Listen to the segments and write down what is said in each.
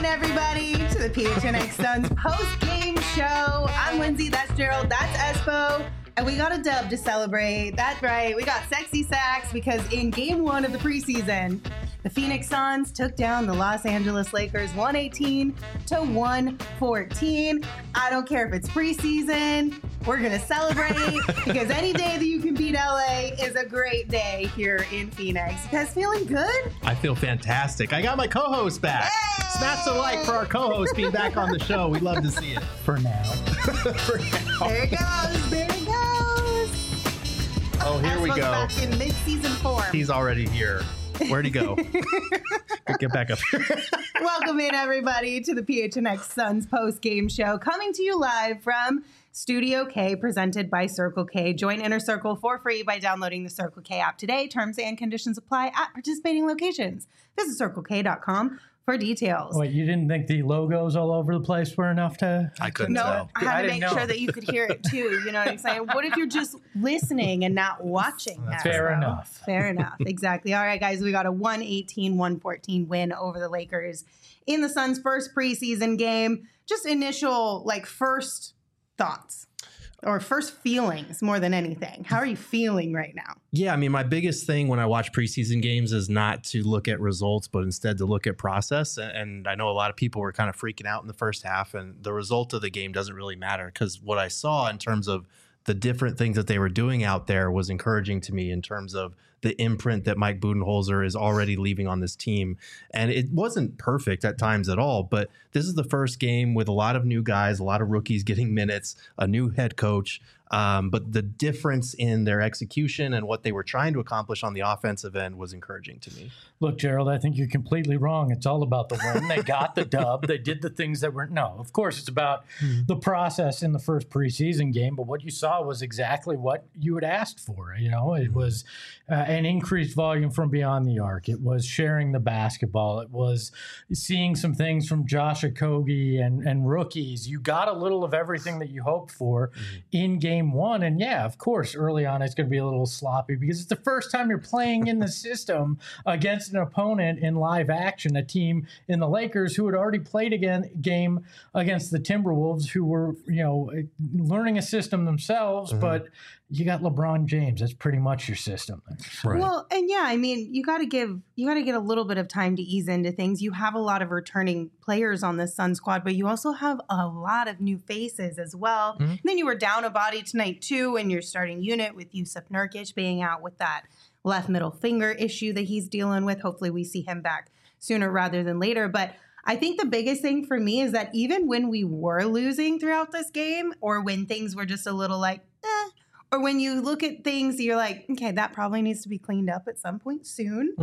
in, everybody, to the PHNX Suns post-game show. I'm Lindsay, that's Gerald, that's Espo, and we got a dub to celebrate. That's right, we got sexy sacks because in game one of the preseason, the Phoenix Suns took down the Los Angeles Lakers 118-114. I don't care if it's preseason. We're going to celebrate because any day that you can beat LA is a great day here in Phoenix. You guys feeling good? I feel fantastic. I got my co-host back. Yay! Smash the like for our co-host being back on the show. We'd love to see it. For now. For now. There it goes. There it goes. Oh, here we Espo's go. back in mid-season form. He's already here. Where'd he go? Get back up here. Welcome in, everybody, to the PHNX Suns post-game show, coming to you live from Studio K, presented by Circle K. Join Inner Circle for free by downloading the Circle K app today. Terms and conditions apply at participating locations. Visit CircleK.com for details. Wait, you didn't think the logos all over the place were enough to... I couldn't No, tell. I had to didn't make know. sure that you could hear it too. You know what I'm saying? What if you're just listening and not watching? That's fair Espo? enough. Fair enough. Exactly. All right, guys, we got a 118-114 win over the Lakers in the Suns' first preseason game. Just initial, first thoughts or first feelings more than anything. How are you feeling right now? Yeah, I mean, my biggest thing when I watch preseason games is not to look at results, but instead to look at process. And I know a lot of people were kind of freaking out in the first half, and the result of the game doesn't really matter because what I saw in terms of the different things that they were doing out there was encouraging to me in terms of the imprint that Mike Budenholzer is already leaving on this team. And it wasn't perfect at times at all, but this is the first game with a lot of new guys, a lot of rookies getting minutes, a new head coach. But the difference in their execution and what they were trying to accomplish on the offensive end was encouraging to me. Look, Gerald, I think you're completely wrong. It's all about the win. They got the dub. They did the things that were... No, of course, it's about the process in the first preseason game, but what you saw was exactly what you had asked for. You know, it was an increased volume from beyond the arc. It was sharing the basketball. It was seeing some things from Josh Okogie and rookies. You got a little of everything that you hoped for in game one. And yeah, of course, early on, it's going to be a little sloppy because it's the first time you're playing in the system against an opponent in live action, a team in the Lakers who had already played a game against the Timberwolves, who were, learning a system themselves, but you got LeBron James. That's pretty much your system. Right. Well, and yeah, I mean, you got to get a little bit of time to ease into things. You have a lot of returning players on this Sun squad, but you also have a lot of new faces as well. And then you were down a body tonight too, in your starting unit with Yusuf Nurkic being out with that left middle finger issue that he's dealing with. Hopefully we see him back sooner rather than later. But I think the biggest thing for me is that even when we were losing throughout this game, or when things were just a little or when you look at things, you're like, okay, that probably needs to be cleaned up at some point soon.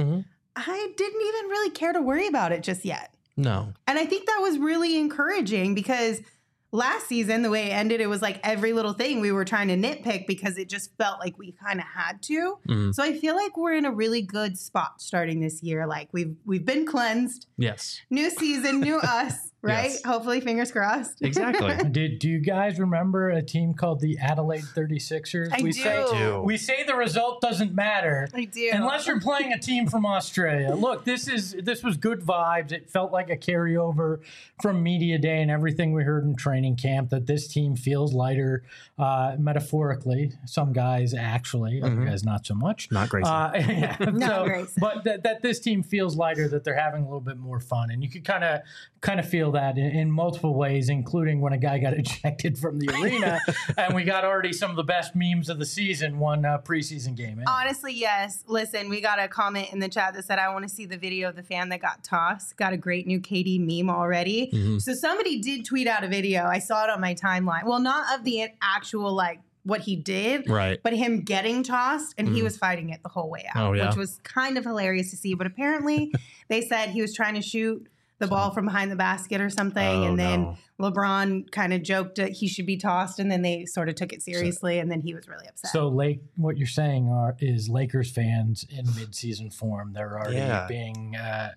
I didn't even really care to worry about it just yet. No. And I think that was really encouraging because last season, the way it ended, it was like every little thing we were trying to nitpick because it just felt like we kind of had to. So I feel like we're in a really good spot starting this year. Like we've been cleansed. Yes. New season, new us, right? Yes. Hopefully, fingers crossed. Exactly. Do you guys remember a team called the Adelaide 36ers? I do. We say the result doesn't matter. I do. Unless you're playing a team from Australia. Look, this was good vibes. It felt like a carryover from media day and everything we heard in training camp, that this team feels lighter, metaphorically. Some guys actually, other guys not so much. Not Grayson. Not Grayson. But that this team feels lighter, that they're having a little bit more fun. And you could kind of feel that in multiple ways, including when a guy got ejected from the arena and we got already some of the best memes of the season, one preseason game. Honestly, yes. Listen, we got a comment in the chat that said, I want to see the video of the fan that got tossed. Got a great new KD meme already. So somebody did tweet out a video. I saw it on my timeline. Well, not of the actual, what he did, Right. but him getting tossed, and he was fighting it the whole way out, Oh, yeah. which was kind of hilarious to see. But apparently they said he was trying to shoot the ball from behind the basket or something, and then LeBron kind of joked that he should be tossed, and then they sort of took it seriously, and then he was really upset. So, what you're saying is Lakers fans in midseason form, they're already being...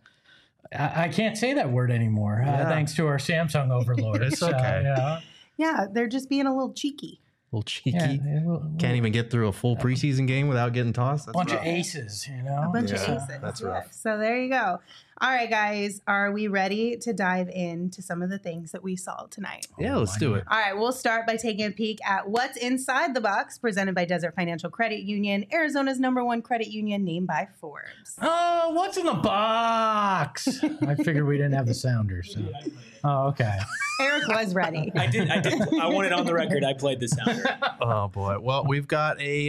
I can't say that word anymore, thanks to our Samsung overlord. It's okay. Yeah, they're just being a little cheeky. little cheeky. Yeah, Can't even get through a full preseason game without getting tossed. That's bunch rough. of aces, you know. A bunch of Yeah, aces. that's Yeah. rough. So there you go. All right, guys. Are we ready to dive into some of the things that we saw tonight? Yeah, let's do it. All right, we'll start by taking a peek at what's inside the box, presented by Desert Financial Credit Union, Arizona's #1 credit union, named by Forbes. Oh, what's in the box? I figured we didn't have the sounder. So. Oh, okay. Eric was ready. I did. I want it on the record. I played the sounder. Oh, boy. Well, we've got a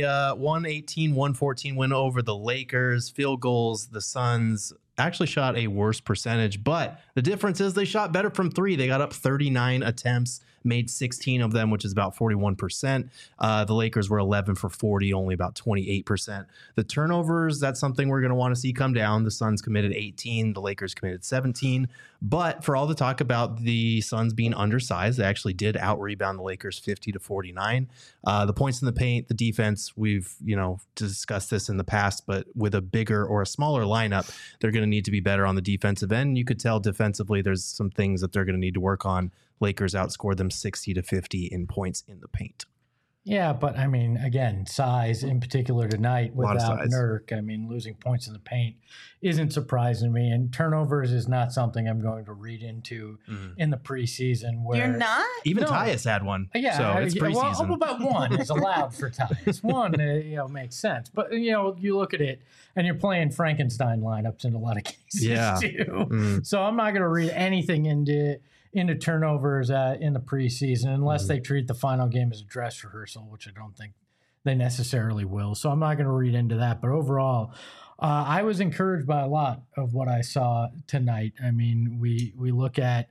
118-114 win over the Lakers. Field goals, the Suns actually shot a worse percentage, but the difference is they shot better from three. They got up 39 attempts, made 16 of them, which is about 41%. The Lakers were 11 for 40, only about 28%. The turnovers, that's something we're going to want to see come down. The Suns committed 18, the Lakers committed 17. But for all the talk about the Suns being undersized, they actually did out-rebound the Lakers 50-49. The points in the paint, the defense, we've discussed this in the past, but with a bigger or a smaller lineup, they're going to need to be better on the defensive end. You could tell defensively there's some things that they're going to need to work on. Lakers outscored them 60-50 in points in the paint. Yeah, but I mean, again, size in particular tonight lot of without size. Nurk. I mean, losing points in the paint isn't surprising to me, and turnovers is not something I'm going to read into in the preseason. Where You're not? Even No. Tyus had one. Yeah, so it's preseason. Well, about one is allowed for Tyus. One, makes sense. But you look at it, and you're playing Frankenstein lineups in a lot of cases Yeah. too. So I'm not going to read anything into turnovers in the preseason unless they treat the final game as a dress rehearsal, which I don't think they necessarily will. So I'm not going to read into that. But overall, I was encouraged by a lot of what I saw tonight. I mean, we look at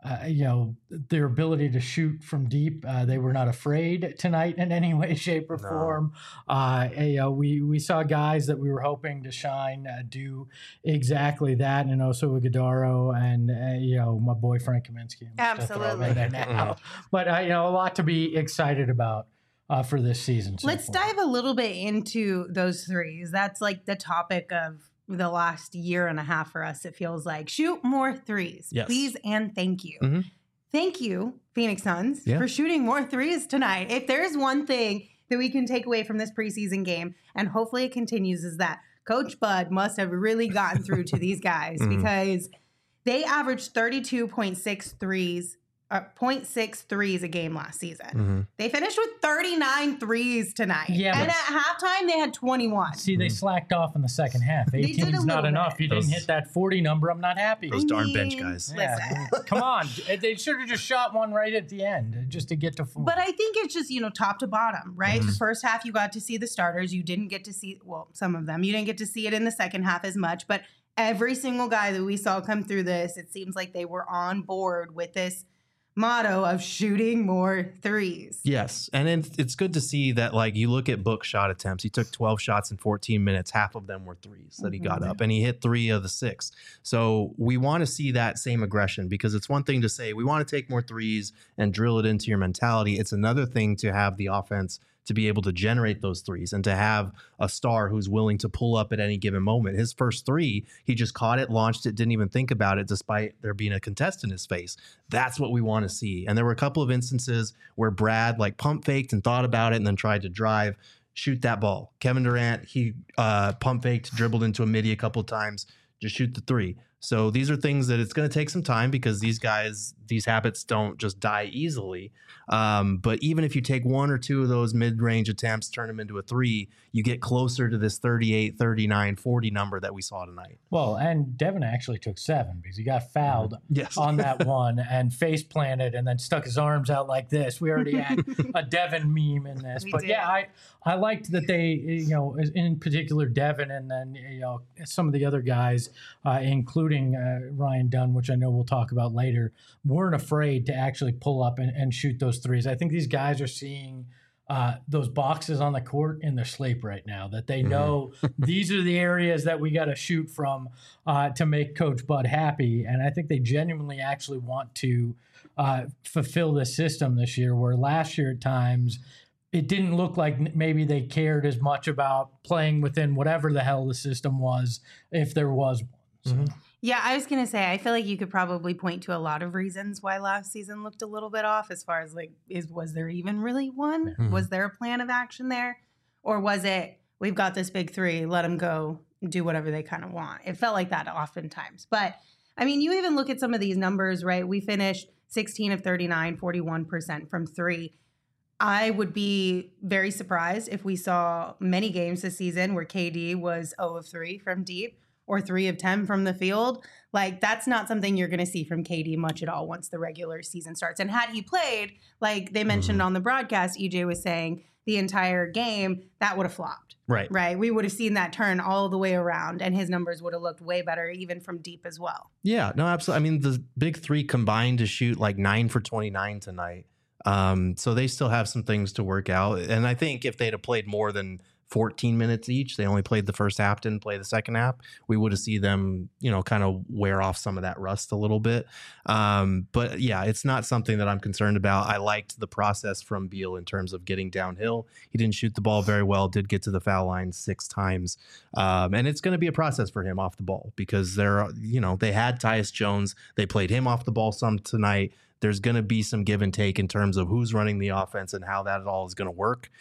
their ability to shoot from deep. They were not afraid tonight in any way, shape, or form. We saw guys that we were hoping to shine do exactly that. And Oso Ighodaro and my boy Frank Kaminsky. I'm just gonna throw him in there now. But a lot to be excited about for this season. Let's dive a little bit into those threes. That's like the topic of the last year and a half for us. It feels like shoot more threes, Yes. please and thank you. Mhm. Thank you, Phoenix Suns, Yeah. for shooting more threes tonight. If there's one thing that we can take away from this preseason game, and hopefully it continues, is that Coach Bud must have really gotten through to these guys because they averaged 32.6 threes. 0.6 threes a game last season. They finished with 39 threes tonight. Yeah, and but- at halftime, they had 21. See, they slacked off in the second half. did 18 a is not little enough. bit. You didn't Those- hit that 40 number. I'm not happy. Those darn bench guys. Yeah, come on. They should have just shot one right at the end just to get to 4. But I think it's just, top to bottom, right? The first half, you got to see the starters. You didn't get to see, some of them. You didn't get to see it in the second half as much. But every single guy that we saw come through this, it seems like they were on board with this motto of shooting more threes. Yes. And it's good to see that, you look at Book's shot attempts. He took 12 shots in 14 minutes. Half of them were threes that he got up, and he hit 3 of the 6. So we want to see that same aggression, because it's one thing to say we want to take more threes and drill it into your mentality. It's another thing to have the offense to be able to generate those threes and to have a star who's willing to pull up at any given moment. His first 3, he just caught it, launched it, didn't even think about it, despite there being a contest in his face. That's what we want to see. And there were a couple of instances where Brad pump faked and thought about it and then tried to drive, shoot that ball. Kevin Durant, he pump faked, dribbled into a midi a couple of times, just shoot the 3. So these are things that it's going to take some time, because these guys, these habits don't just die easily. But even if you take 1 or 2 of those mid-range attempts, turn them into a 3, you get closer to this 38, 39, 40 number that we saw tonight. Well, and Devin actually took 7 because he got fouled Yes. on that one and face planted and then stuck his arms out like this. We already had a Devin meme in this. We But did. yeah, I liked that they, in particular Devin, and then, some of the other guys, including Ryan Dunn, which I know we'll talk about later, weren't afraid to actually pull up and shoot those threes. I think these guys are seeing those boxes on the court in their sleep right now, that they know these are the areas that we got to shoot from to make Coach Bud happy. And I think they genuinely actually want to fulfill this system this year, where last year at times it didn't look like maybe they cared as much about playing within whatever the hell the system was, if there was one. So. Yeah, I was going to say, I feel like you could probably point to a lot of reasons why last season looked a little bit off as far as like, was there even really one? Mhm. Was there a plan of action there? Or was it, we've got this big three, let them go do whatever they kind of want? It felt like that oftentimes. But I mean, you even look at some of these numbers, right? We finished 16 of 39, 41% from three. I would be very surprised if we saw many games this season where KD was 0 of 3 from deep or 3 of 10 from the field. Like, that's not something you're going to see from KD much at all once the regular season starts. And had he played, like they mentioned on the broadcast, EJ was saying the entire game, that would have flopped. Right. We would have seen that turn all the way around, and his numbers would have looked way better, even from deep as well. Yeah, no, absolutely. I mean, the big three combined to shoot like 9 for 29 tonight. So they still have some things to work out. And I think if they'd have played more than 14 minutes each, they only played the first half, didn't play the second half, we would have seen them, kind of wear off some of that rust a little bit. But yeah, it's not something that I'm concerned about. I liked the process from Beal in terms of getting downhill. He didn't shoot the ball very well, did get to the foul line 6 times. And it's going to be a process for him off the ball because they had Tyus Jones. They played him off the ball some tonight. There's going to be some give and take in terms of who's running the offense and how that all is going to work.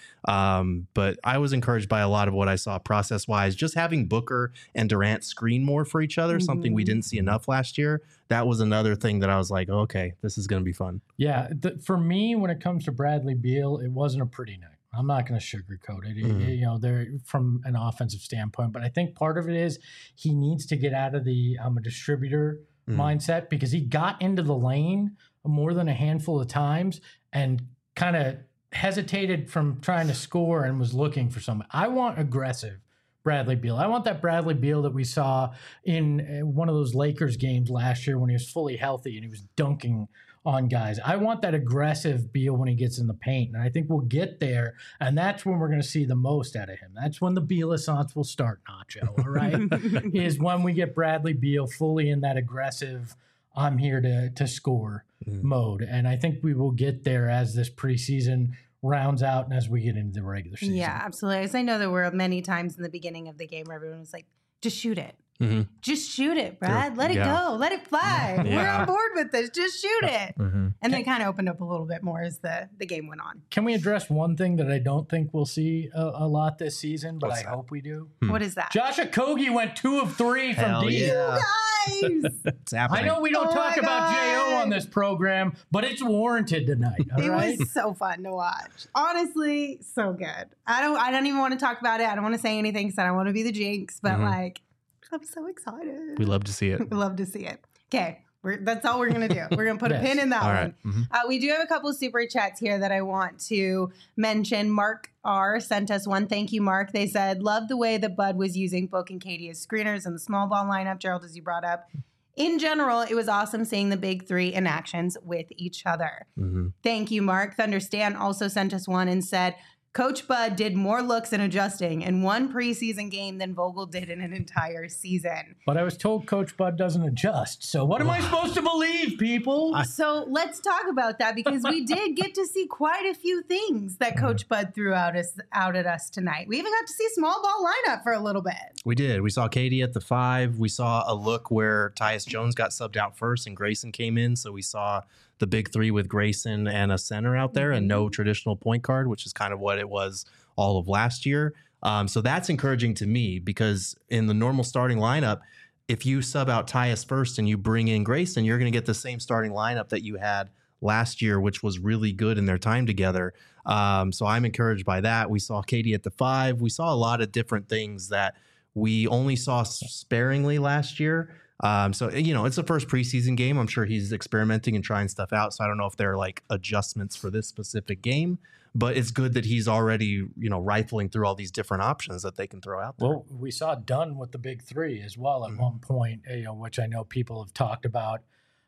But I was encouraged by a lot of what I saw process-wise. Just having Booker and Durant screen more for each other, something we didn't see enough last year, that was another thing that I was like, okay, this is going to be fun. Yeah, for me, when it comes to Bradley Beal, it wasn't a pretty night. I'm not going to sugarcoat it. They're from an offensive standpoint, but I think part of it is he needs to get out of the I'm a distributor mindset because he got into the lane more than a handful of times and kind of hesitated from trying to score and was looking for something. I want aggressive Bradley Beal. I want that Bradley Beal that we saw in one of those Lakers games last year when he was fully healthy and he was dunking on guys. I want that aggressive Beal when he gets in the paint, and I think we'll get there, and that's when we're going to see the most out of him. That's when the Beal-assance will start, Nacho, all right? Is when we get Bradley Beal fully in that aggressive, I'm here to score mode. And I think we will get there as this preseason rounds out and as we get into the regular season. Yeah, absolutely. As I know there were many times in the beginning of the game where everyone was like, just shoot it. Just shoot it, Brad. Let it go. Let it fly. We're on board with this. Just shoot it. And they kind of opened up a little bit more as the game went on. Can we address one thing that I don't think we'll see a lot this season, but I hope we do? What is that? Josh Okogie went 2 of 3 from deep. Yeah. You guys! It's happening. I know we don't talk about J.O. on this program, but it's warranted tonight. All right? It was so fun to watch. Honestly, so good. I don't even want to talk about it. I don't want to say anything because I don't want to be the jinx, but I'm so excited. We love to see it. We love to see it. Okay. That's all we're going to do. We're going to put a pin in that one. We do have a couple of super chats here that I want to mention. Mark R. sent us one. Thank you, Mark. They said, love the way that Bud was using Book and Katie as screeners in the small ball lineup, Gerald, as you brought up. In general, it was awesome seeing the big three in actions with each other. Thank you, Mark. Thunderstan also sent us one and said, Coach Bud did more looks and adjusting in one preseason game than Vogel did in an entire season. But I was told Coach Bud doesn't adjust. So what am I supposed to believe, people? So let's talk about that because we did get to see quite a few things that Coach Bud threw out at us tonight. We even got to see small ball lineup for a little bit. We did. We saw Katie at the 5. We saw a look where Tyus Jones got subbed out first and Grayson came in. So we saw the big 3 with Grayson and a center out there and no traditional point guard, which is kind of what it was all of last year. So that's encouraging to me because in the normal starting lineup, if you sub out Tyus first and you bring in Grayson, you're going to get the same starting lineup that you had last year, which was really good in their time together. So I'm encouraged by that. We saw Katie at the 5. We saw a lot of different things that we only saw sparingly last year. So, it's the first preseason game. I'm sure he's experimenting and trying stuff out. So I don't know if there are like adjustments for this specific game, but it's good that he's already, rifling through all these different options that they can throw out there. Well, we saw Dunn with the big 3 as well at one point, which I know people have talked about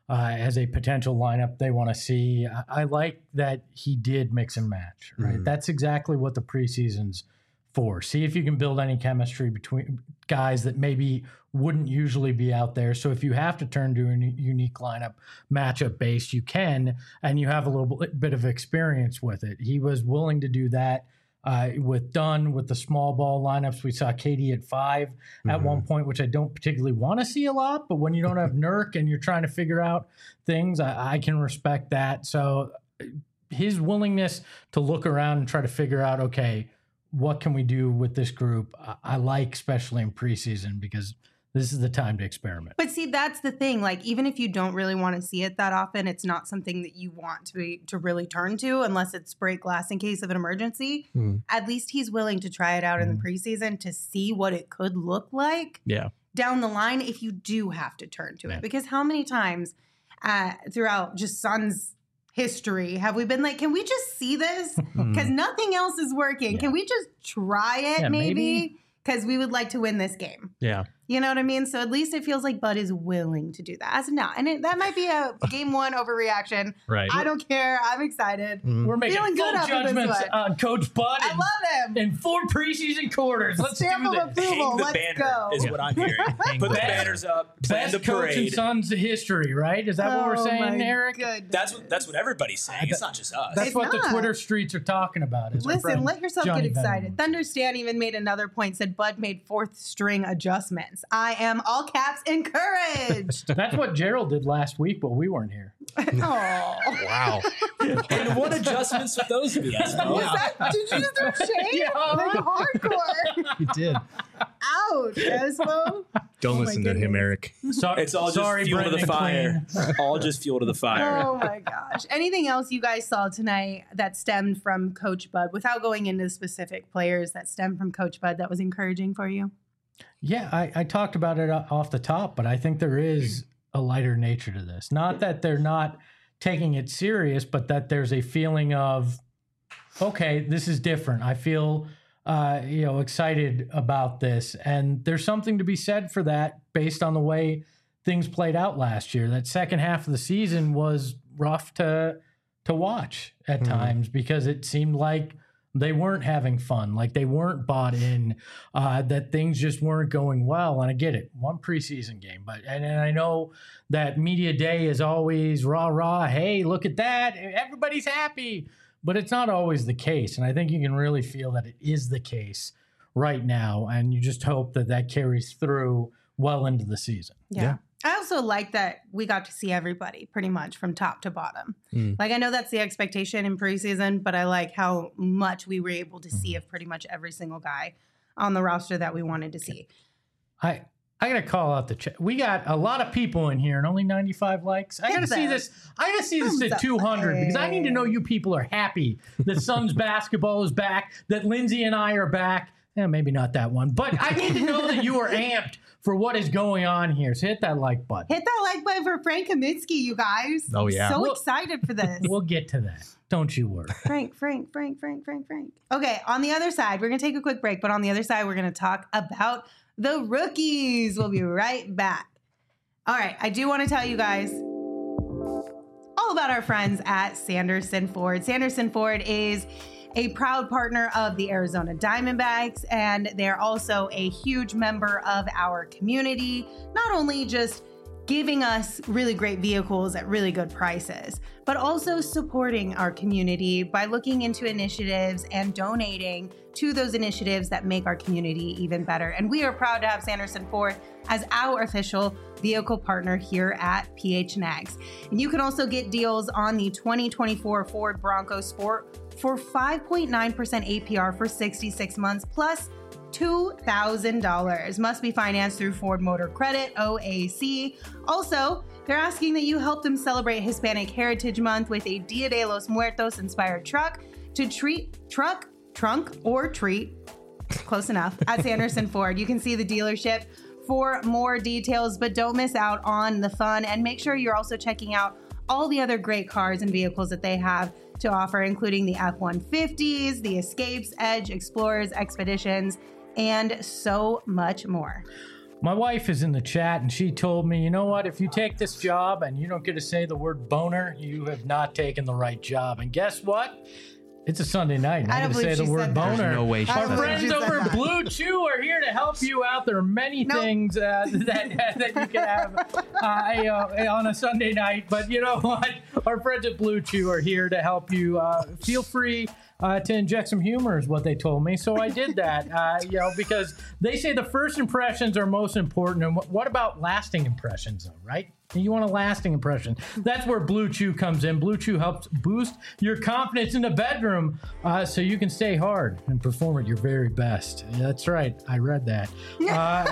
as a potential lineup they want to see. I like that he did mix and match, right? That's exactly what the preseason's for. See if you can build any chemistry between guys that maybe wouldn't usually be out there. So if you have to turn to a unique lineup, matchup based, you can, and you have a little bit of experience with it. He was willing to do that. with Dunn, with the small ball lineups. We saw Katie at 5 at one point, which I don't particularly want to see a lot. But when you don't have Nurk and you're trying to figure out things, I can respect that. So his willingness to look around and try to figure out, okay, what can we do with this group? I like, especially in preseason, because this is the time to experiment. But see, that's the thing. Like, even if you don't really want to see it that often, it's not something that you want to really turn to unless it's break glass in case of an emergency. At least he's willing to try it out in the preseason to see what it could look like down the line if you do have to turn to it. Because how many times throughout just Suns history have we been like, can we just see this? Because nothing else is working. Can we just try it maybe? Because we would like to win this game. Yeah. You know what I mean? So at least it feels like Bud is willing to do that. As of now. And that might be a game one overreaction. Right. I don't care. I'm excited. We're making Feeling full good after this judgments one. on Coach Bud. I love him. In 4 preseason quarters. Let's Stamp do of this. approval. Hang the Let's banner go. is what I'm hearing. Put the banners up. Plan Best the coach in parade. Suns history, right? Is that what we're saying, my Eric? goodness. That's what everybody's saying. It's not just us. That's It's what the not. Twitter streets are talking about. Is our Listen, friend let yourself Johnny get excited. Venom. Thunder Stan even made another point, said Bud made 4th string adjustments. I am all caps encouraged. That's what Gerald did last week, but we weren't here. Oh. Wow. And what adjustments would those be? Did you just throw shade? Yeah. Like hardcore. You did. Ouch, Espo. Don't Oh my listen to him, goodness. Eric. It's all just sorry, fuel to the Brandon fire. McLean. All just fuel to the fire. Oh my gosh. Anything else you guys saw tonight that stemmed from Coach Bud, without going into specific players that stemmed from Coach Bud, that was encouraging for you? Yeah, I talked about it off the top, but I think there is a lighter nature to this. Not that they're not taking it serious, but that there's a feeling of, okay, this is different. I feel, excited about this. And there's something to be said for that based on the way things played out last year. That second half of the season was rough to watch at times because it seemed like they weren't having fun, like they weren't bought in, that things just weren't going well. And I get it, one preseason game, and I know that media day is always rah, hey, look at that, everybody's happy, but it's not always the case. And I think you can really feel that it is the case right now, and you just hope that that carries through well into the season. Yeah. I also like that we got to see everybody pretty much from top to bottom. Like, I know that's the expectation in preseason, but I like how much we were able to see of pretty much every single guy on the roster that we wanted to see. I got to call out the chat. We got a lot of people in here and only 95 likes. I got to see this. I got to see this Thumbs at up. 200 because I need to know you people are happy that Suns basketball is back, that Lindsay and I are back. Maybe not that one, but I need to know that you are amped for what is going on here. So hit that like button. Hit that like button for Frank Kaminsky, you guys. Oh, yeah. So Well- excited for this. We'll get to that. Don't you worry. Frank. Okay, on the other side, we're going to take a quick break, but on the other side, we're going to talk about the rookies. We'll be right back. All right, I do want to tell you guys all about our friends at Sanderson Ford. Sanderson Ford is a proud partner of the Arizona Diamondbacks, and they're also a huge member of our community, not only just giving us really great vehicles at really good prices, but also supporting our community by looking into initiatives and donating to those initiatives that make our community even better. And we are proud to have Sanderson Ford as our official vehicle partner here at PHNX. And you can also get deals on the 2024 Ford Bronco Sport for 5.9% APR for 66 months plus $2,000. Must be financed through Ford Motor Credit, OAC. Also, they're asking that you help them celebrate Hispanic Heritage Month with a Dia de los Muertos inspired truck to treat trunk or treat, close enough, at Sanderson Ford. You can see the dealership for more details, but don't miss out on the fun, and make sure you're also checking out all the other great cars and vehicles that they have to offer, including the F-150s, the Escapes, Edge, Explorers, Expeditions, and so much more. My wife is in the chat and she told me, you know what? If you take this job and you don't get to say the word boner, you have not taken the right job. And guess what? It's a Sunday night. And I I don't get to say believe the she word said that. boner. There's no way she I Our said don't that. believe friends she said over at that. Blue Chew are here to help you out. There are many Nope. things that you can have on a Sunday night. But you know what? Our friends at Blue Chew are here to help you. Feel free to inject some humor is what they told me. So I did that, because they say the first impressions are most important. And what about lasting impressions, though, right? You want a lasting impression. That's where Blue Chew comes in. Blue Chew helps boost your confidence in the bedroom so you can stay hard and perform at your very best. Yeah, that's right. I read that. And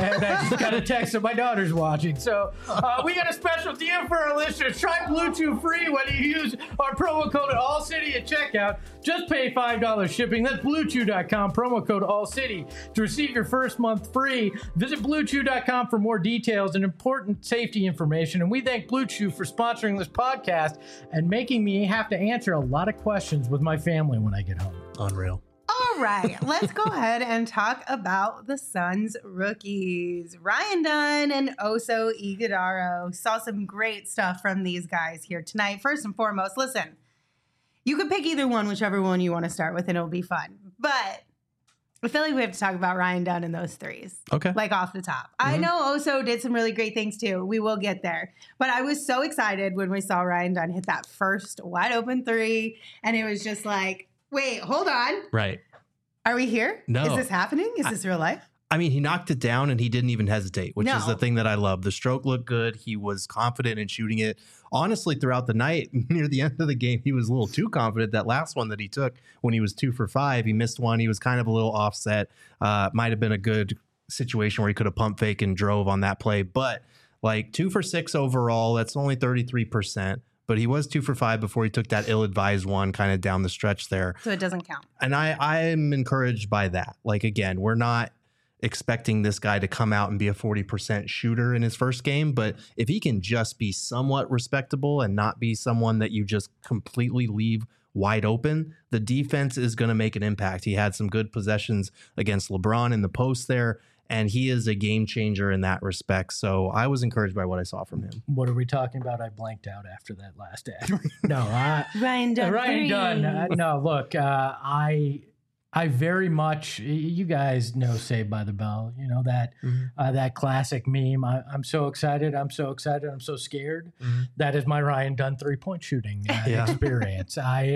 I just got a text that my daughter's watching. So we got a special deal for our listeners. Try Blue Chew free when you use our promo code ALLCITY at checkout. Just pay $5 shipping. That's BlueChew.com, promo code ALLCITY to receive your first month free. Visit BlueChew.com for more details and important safety information. And we thank Blue Chew for sponsoring this podcast and making me have to answer a lot of questions with my family when I get home. Unreal. All right, let's go ahead and talk about the Suns rookies. Ryan Dunn and Oso Ighodaro. Saw some great stuff from these guys here tonight. First and foremost, listen, you could pick either one, whichever one you want to start with, and it'll be fun. But I feel like we have to talk about Ryan Dunn and those threes. Okay. Like off the top. I know Oso did some really great things too. We will get there. But I was so excited when we saw Ryan Dunn hit that first wide open three. And it was just like, wait, hold on. Right. Are we here? No. Is this happening? Is this real life? I mean, he knocked it down and he didn't even hesitate, which is No. the thing that I love. The stroke looked good. He was confident in shooting it. Honestly, throughout the night, near the end of the game, he was a little too confident. That last one that he took when he was 2 for 5, he missed one. He was kind of a little offset. Might have been a good situation where he could have pump fake and drove on that play. But like 2 for 6 overall, that's only 33%. But he was 2 for 5 before he took that ill-advised one kind of down the stretch there. So it doesn't count. And I'm encouraged by that. Like, again, we're not expecting this guy to come out and be a 40% shooter in his first game. But if he can just be somewhat respectable and not be someone that you just completely leave wide open, the defense is going to make an impact. He had some good possessions against LeBron in the post there, and he is a game changer in that respect. So I was encouraged by what I saw from him. What are we talking about? I blanked out after that last ad. No, Ryan Dunn. Ryan Dunn. No, look, I very much, you guys know Saved by the Bell, you know, that that classic meme. I'm so excited. I'm so excited. I'm so scared. That is my Ryan Dunn 3-point shooting experience.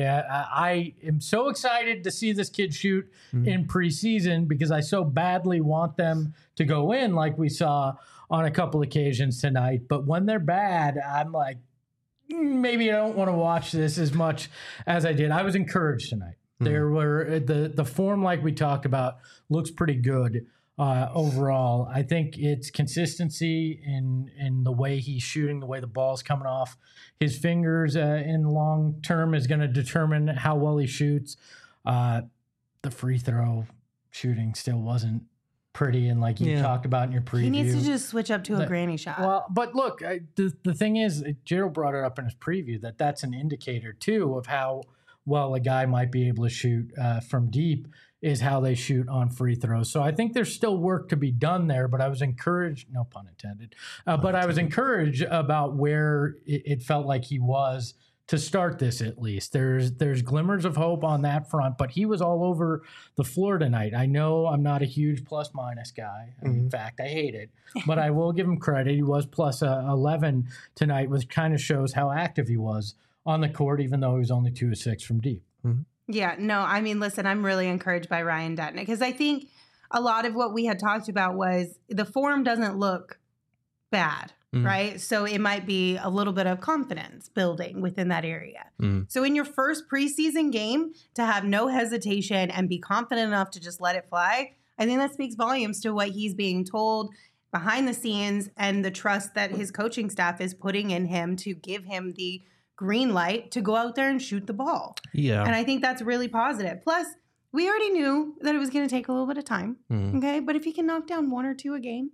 I am so excited to see this kid shoot in preseason because I so badly want them to go in like we saw on a couple occasions tonight. But when they're bad, I'm like, maybe I don't want to watch this as much as I did. I was encouraged tonight. There were the form, like we talked about, looks pretty good overall. I think it's consistency in the way he's shooting, the way the ball's coming off his fingers in the long term is going to determine how well he shoots. The free throw shooting still wasn't pretty, and like you talked about in your preview. He needs to just switch up to a granny shot. Well, but look, the thing is, Gerald brought it up in his preview that's an indicator too of how well a guy might be able to shoot from deep is how they shoot on free throws. So I think there's still work to be done there, but I was encouraged, no pun intended, but I was encouraged about where it felt like he was to start this at least. There's glimmers of hope on that front, but he was all over the floor tonight. I know I'm not a huge plus-minus guy. In fact, I hate it, but I will give him credit. He was plus 11 tonight, which kind of shows how active he was on the court, even though he was only 2 of 6 from deep. Yeah, no, I mean, listen, I'm really encouraged by Ryan Dunn because I think a lot of what we had talked about was the form doesn't look bad, right? So it might be a little bit of confidence building within that area. So in your first preseason game, to have no hesitation and be confident enough to just let it fly, I think that speaks volumes to what he's being told behind the scenes and the trust that his coaching staff is putting in him to give him the green light to go out there and shoot the ball. Yeah. And I think that's really positive. Plus, we already knew that it was going to take a little bit of time. Okay. But if he can knock down 1 or 2 a game,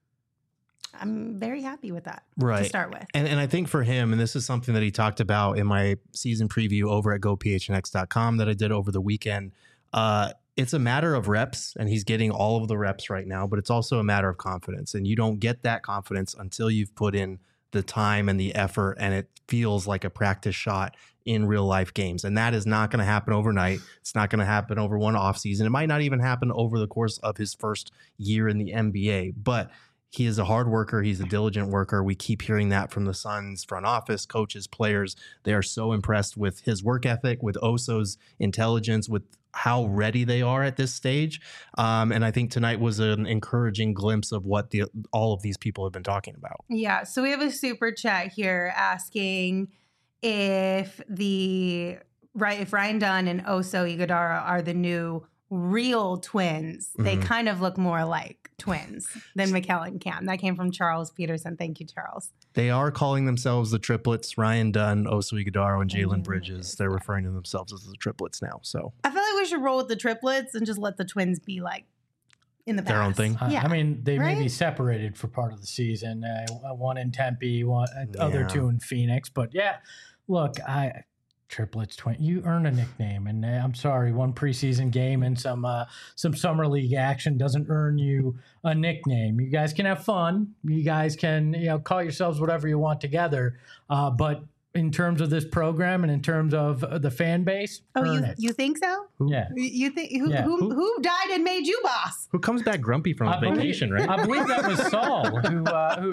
I'm very happy with that to start with. And I think for him, and this is something that he talked about in my season preview over at gophnx.com that I did over the weekend, it's a matter of reps, and he's getting all of the reps right now, but it's also a matter of confidence. And you don't get that confidence until you've put in the time and the effort, and it feels like a practice shot in real life games. And that is not going to happen overnight. It's not going to happen over one off season. It might not even happen over the course of his first year in the NBA, but he is a hard worker. He's a diligent worker. We keep hearing that from the Suns front office, coaches, players. They are so impressed with his work ethic, with Oso's intelligence, with how ready they are at this stage. And I think tonight was an encouraging glimpse of what all of these people have been talking about. Yeah. So we have a super chat here asking if Ryan Dunn and Oso Ighodaro are the new real twins. They kind of look more like twins than Mikal and Cam. That came from Charles Peterson. Thank you, Charles. They are calling themselves the triplets, Ryan Dunn, Oso Ighodaro, and Jalen Bridges. They're referring to themselves as the triplets now. So I feel like we should roll with the triplets and just let the twins be like in the past. Their own thing. Yeah. I mean, they may be Right? separated for part of the season. One in Tempe, other two in Phoenix. But yeah, look, triplets, you earn a nickname, and I'm sorry, one preseason game and some summer league action doesn't earn you a nickname. You guys can have fun. You guys can call yourselves whatever you want together. But in terms of this program and in terms of the fan base, earn it. You think so? Yeah. You think Yeah. who died and made you boss Who comes back grumpy from vacation, right? I believe that was Saul who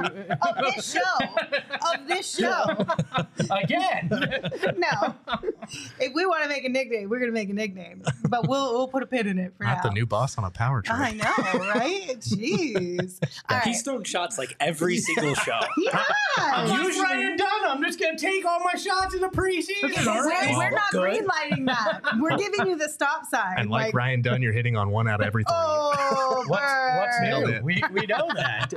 of this show? again. No. If we want to make a nickname, we're gonna make a nickname, but we'll put a pin in it for Not now. the new boss on a power trip. I know, right? Jeez. All right. He's throwing shots like every single show. Yeah. Usually Ryan Dunn, I'm just going to take all my shots in the preseason. We're not Good. greenlighting that. We're giving you the stop sign. And like Ryan Dunn, you're hitting on 1 out of every 3. Oh, What's Nailed new? it. We know that.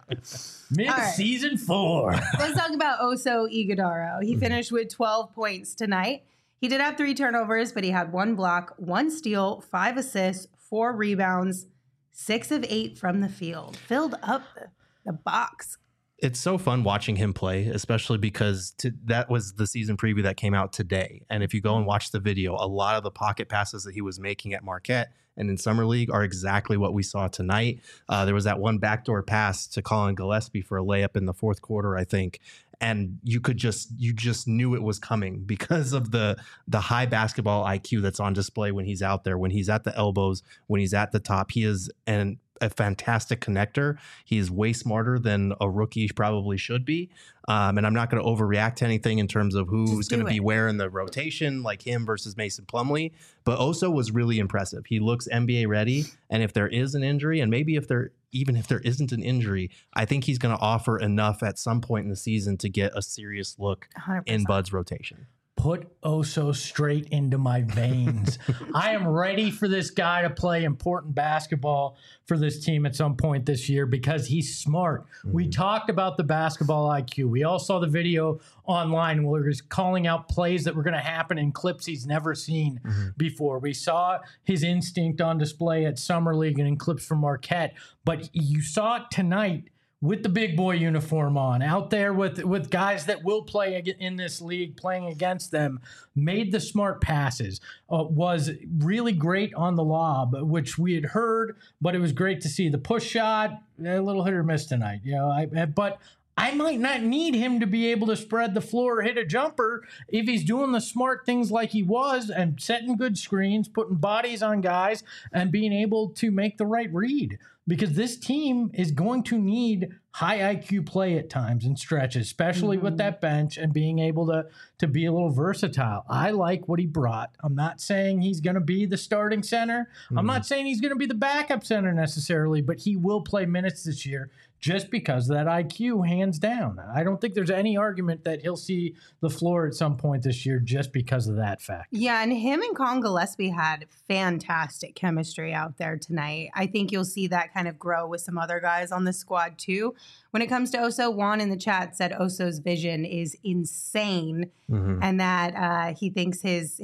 Mid-season 4. Let's talk about Oso Ighodaro. He finished with 12 points tonight. He did have 3 turnovers, but he had 1 block, 1 steal, 5 assists, 4 rebounds, 6 of 8 from the field. Filled up the box. It's so fun watching him play, especially because that was the season preview that came out today. And if you go and watch the video, a lot of the pocket passes that he was making at Marquette and in Summer League are exactly what we saw tonight. There was that one backdoor pass to Colin Gillespie for a layup in the fourth quarter, I think. And you just knew it was coming because of the high basketball IQ that's on display when he's out there, when he's at the elbows, when he's at the top. He is a fantastic connector. He is way smarter than a rookie probably should be. And I'm not going to overreact to anything in terms of who's going to be where in the rotation, like him versus Mason Plumlee. But Oso was really impressive. He looks NBA ready. And if there is an injury, and maybe even if there isn't an injury, I think he's going to offer enough at some point in the season to get a serious look 100%. in Bud's rotation. Put Oso straight into my veins. I am ready for this guy to play important basketball for this team at some point this year because he's smart. We talked about the basketball IQ. We all saw the video online where he's calling out plays that were going to happen in clips he's never seen before. We saw his instinct on display at Summer League and in clips from Marquette. But you saw it tonight with the big boy uniform on, out there with guys that will play in this league, playing against them, made the smart passes, was really great on the lob, which we had heard, but it was great to see. The push shot, a little hit or miss tonight. But I might not need him to be able to spread the floor or hit a jumper if he's doing the smart things like he was and setting good screens, putting bodies on guys, and being able to make the right read. Because this team is going to need high IQ play at times and stretches, especially with that bench and being able to be a little versatile. I like what he brought. I'm not saying he's going to be the starting center. I'm not saying he's going to be the backup center necessarily, but he will play minutes this year just because of that IQ, hands down. I don't think there's any argument that he'll see the floor at some point this year just because of that fact. Yeah, and him and Colin Gillespie had fantastic chemistry out there tonight. I think you'll see that kind of grow with some other guys on the squad too. When it comes to Oso, Juan in the chat said Oso's vision is insane and that he thinks his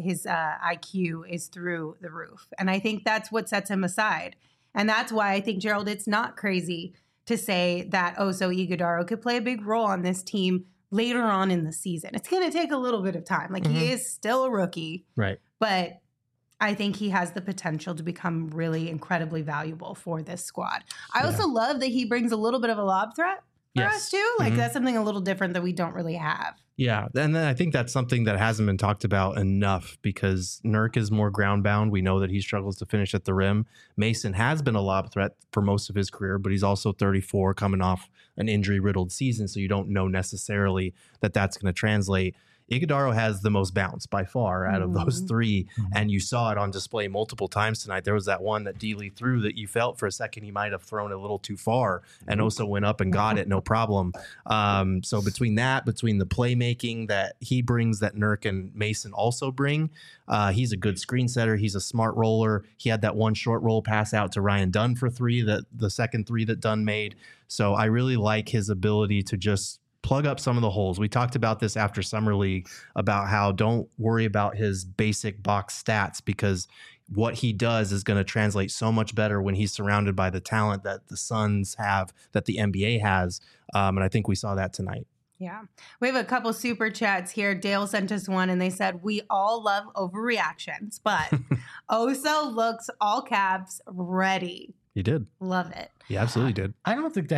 IQ is through the roof. And I think that's what sets him aside. And that's why I think, Gerald, it's not crazy to say that Oso Ighodaro could play a big role on this team later on in the season. It's going to take a little bit of time. Like he is still a rookie. Right. But I think he has the potential to become really incredibly valuable for this squad. I also love that he brings a little bit of a lob threat. for Yes. us too. Like Mhm. that's something a little different that we don't really have. Yeah, and then I think that's something that hasn't been talked about enough because Nurk is more ground bound. We know that he struggles to finish at the rim. Mason has been a lob threat for most of his career, but he's also 34 coming off an injury riddled season. So you don't know necessarily that that's going to translate. Iguodaro has the most bounce by far out of those three, and you saw it on display multiple times tonight. There was that one that D. Lee threw that you felt for a second he might have thrown a little too far, and Oso went up and got it, no problem. So between the playmaking that he brings, that Nurk and Mason also bring, he's a good screen setter. He's a smart roller. He had that one short roll pass out to Ryan Dunn for three, that the second three that Dunn made. So I really like his ability to just plug up some of the holes. We talked about this after Summer League about how don't worry about his basic box stats because what he does is going to translate so much better when he's surrounded by the talent that the Suns have, that the NBA has. And I think we saw that tonight. Yeah. We have a couple super chats here. Dale sent us one and they said, we all love overreactions, but Oso looks all caps ready. He did. Love it. He absolutely did. I don't think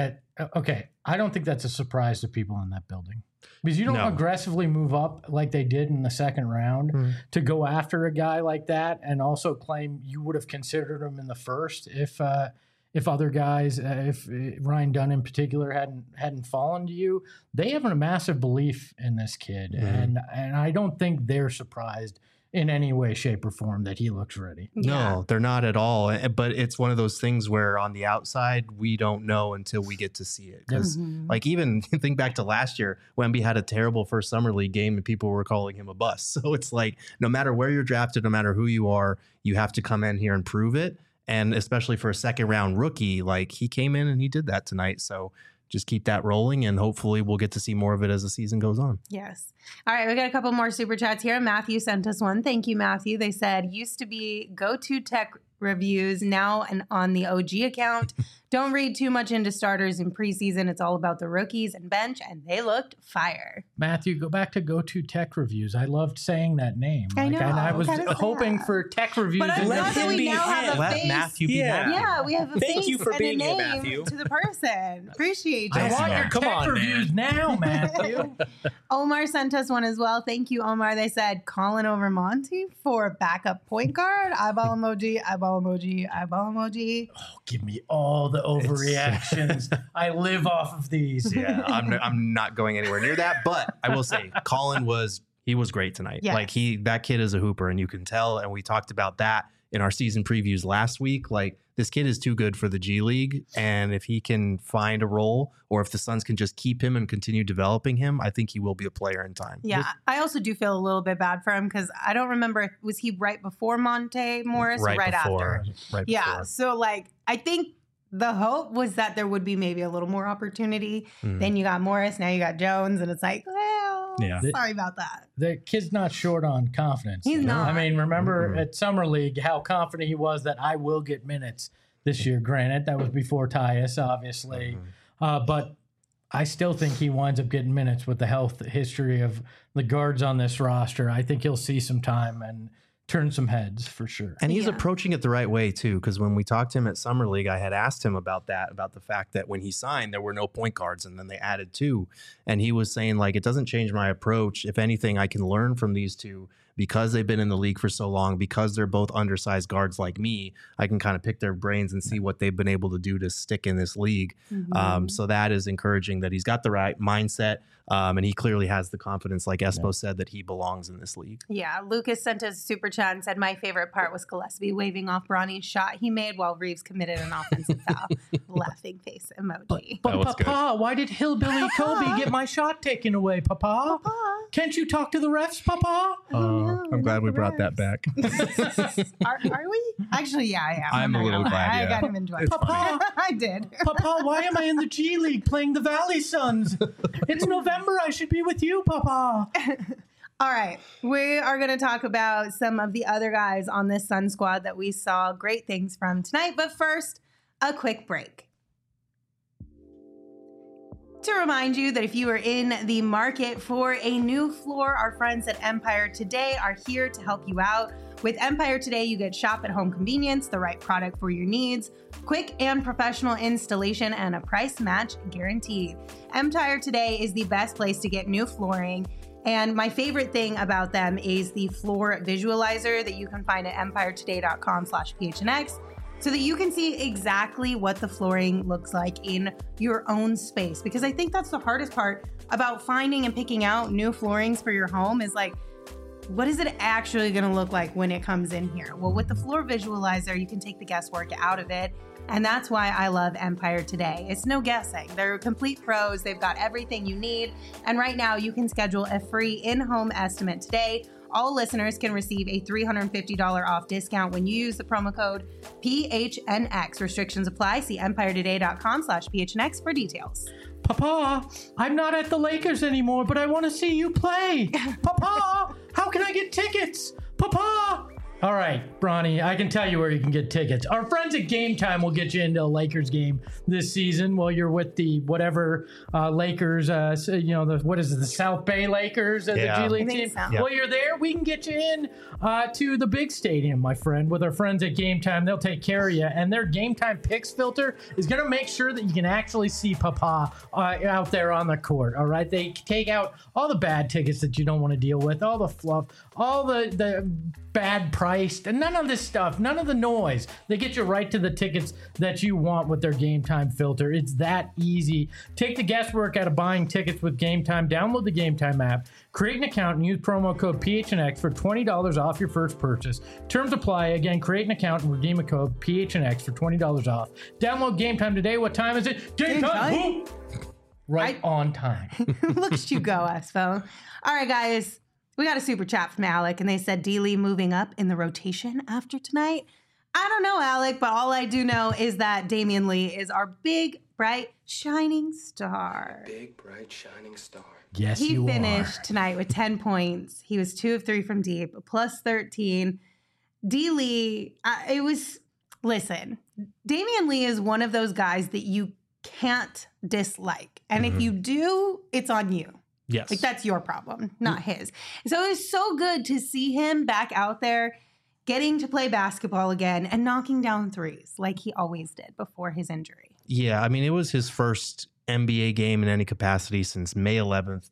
that's a surprise to people in that building because you don't aggressively move up like they did in the second round to go after a guy like that and also claim you would have considered him in the first if other guys, if Ryan Dunn in particular hadn't fallen to you. They have a massive belief in this kid, and I don't think they're surprised in any way, shape, or form that he looks ready. No, they're not at all. But it's one of those things where on the outside, we don't know until we get to see it. Because like even think back to last year, Wemby had a terrible first Summer League game and people were calling him a bust. So it's like, no matter where you're drafted, no matter who you are, you have to come in here and prove it. And especially for a second round rookie, like he came in and he did that tonight. So just keep that rolling and hopefully we'll get to see more of it as the season goes on. Yes. All right. We got a couple more super chats here. Matthew sent us one. Thank you, Matthew. They said, used to be Go-To Tech reviews, now and on the OG account. Don't read too much into starters in preseason. It's all about the rookies and bench, and they looked fire. Matthew, go back to Go-To Tech Reviews. I loved saying that name. I know. And I was Kinda hoping sad. for Tech Reviews. But I'm in glad there. that we now have a Let face. Matthew be Yeah. Matthew. Yeah, we have a Thank face you for and being a here, name Matthew. to the person. Appreciate you. I want your Come Tech on, Reviews now, Matthew. Omar sent us one as well. Thank you, Omar. They said, Colin over Monty for backup point guard. Eyeball emoji, eyeball emoji, eyeball emoji. Oh, give me all the overreactions. I live off of these. Yeah, I'm not going anywhere near that. But I will say, Colin was great tonight. Yes. Like that kid is a hooper, and you can tell. And we talked about that in our season previews last week. Like this kid is too good for the G League, and if he can find a role, or if the Suns can just keep him and continue developing him, I think he will be a player in time. Yeah, I also do feel a little bit bad for him because I don't remember, was he right before Monte Morris or right after? Right Yeah, before. so like I think the hope was that there would be maybe a little more opportunity. Then you got Morris, now you got Jones, and it's like, well, Yeah. sorry about that. The kid's not short on confidence. He's not. I mean, remember at Summer League how confident he was that I will get minutes this year. Granted, that was before Tyus, obviously. But I still think he winds up getting minutes with the health history of the guards on this roster. I think he'll see some time and turn some heads for sure. And he's Yeah. approaching it the right way too, because when we talked to him at Summer League, I had asked him about that, about the fact that when he signed, there were no point guards, and then they added two. And he was saying, like, it doesn't change my approach. If anything, I can learn from these two because they've been in the league for so long, because they're both undersized guards like me. I can kind of pick their brains and see what they've been able to do to stick in this league. So that is encouraging that he's got the right mindset. And he clearly has the confidence, like Espo said, that he belongs in this league. Yeah, Lucas sent us a super chat and said, my favorite part was Gillespie waving off Bronny's shot he made while Reeves committed an offensive foul. Laughing face emoji. But That was good. Papa, why did Hillbilly Kobe get my shot taken away, Papa? Can't you talk to the refs, Papa? I'm glad we brought that back. Are we? Actually, yeah, I am. I'm not a little gonna lie. glad, I yeah. got him enjoyed. Papa, I did. Papa, why am I in the G League playing the Valley Suns? It's November. I should be with you, Papa. All right. We are going to talk about some of the other guys on this Sun squad that we saw great things from tonight. But first, a quick break. To remind you that if you are in the market for a new floor, our friends at Empire Today are here to help you out. With Empire Today, you get shop at home convenience, the right product for your needs, quick and professional installation, and a price match guaranteed. Empire Today is the best place to get new flooring. And my favorite thing about them is the floor visualizer that you can find at empiretoday.com/PHNX, so that you can see exactly what the flooring looks like in your own space. Because I think that's the hardest part about finding and picking out new floorings for your home is like, what is it actually going to look like when it comes in here? Well, with the floor visualizer, you can take the guesswork out of it. And that's why I love Empire Today. It's no guessing. They're complete pros. They've got everything you need. And right now you can schedule a free in-home estimate today. All listeners can receive a $350 off discount when you use the promo code PHNX. Restrictions apply. See empiretoday.com/PHNX for details. Papa, I'm not at the Lakers anymore, but I want to see you play. Papa, how can I get tickets? Papa. All right, Bronny, I can tell you where you can get tickets. Our friends at Game Time will get you into a Lakers game this season while you're with the whatever Lakers, what is it, the South Bay Lakers and the G League team. So. Yeah. While you're there, we can get you in to the big stadium, my friend, with our friends at Game Time. They'll take care of you. And their Game Time Picks filter is going to make sure that you can actually see Papa out there on the court, all right? They take out all the bad tickets that you don't want to deal with, all the fluff, all the bad priced, and none of this stuff, none of the noise. They get you right to the tickets that you want with their Game Time filter. It's that easy. Take the guesswork out of buying tickets with Game Time. Download the Game Time app, create an account, and use promo code PHNX for $20 off your first purchase. Terms apply. Again, create an account and redeem a code PHNX for $20 off. Download Game Time today. What time is it? Game time! Right on time. Look at you go, Espo. All right, guys. We got a super chat from Alec, and they said D-Lee moving up in the rotation after tonight. I don't know, Alec, but all I do know is that Damian Lee is our big, bright, shining star. Big, bright, shining star. Yes, he you finished tonight with 10 points. He was 2 of 3 from deep, plus 13. D-Lee, listen, Damian Lee is one of those guys that you can't dislike. And if you do, it's on you. Yes. Like, that's your problem, not his. So it was so good to see him back out there getting to play basketball again and knocking down threes like he always did before his injury. Yeah, I mean, it was his first NBA game in any capacity since May 11th,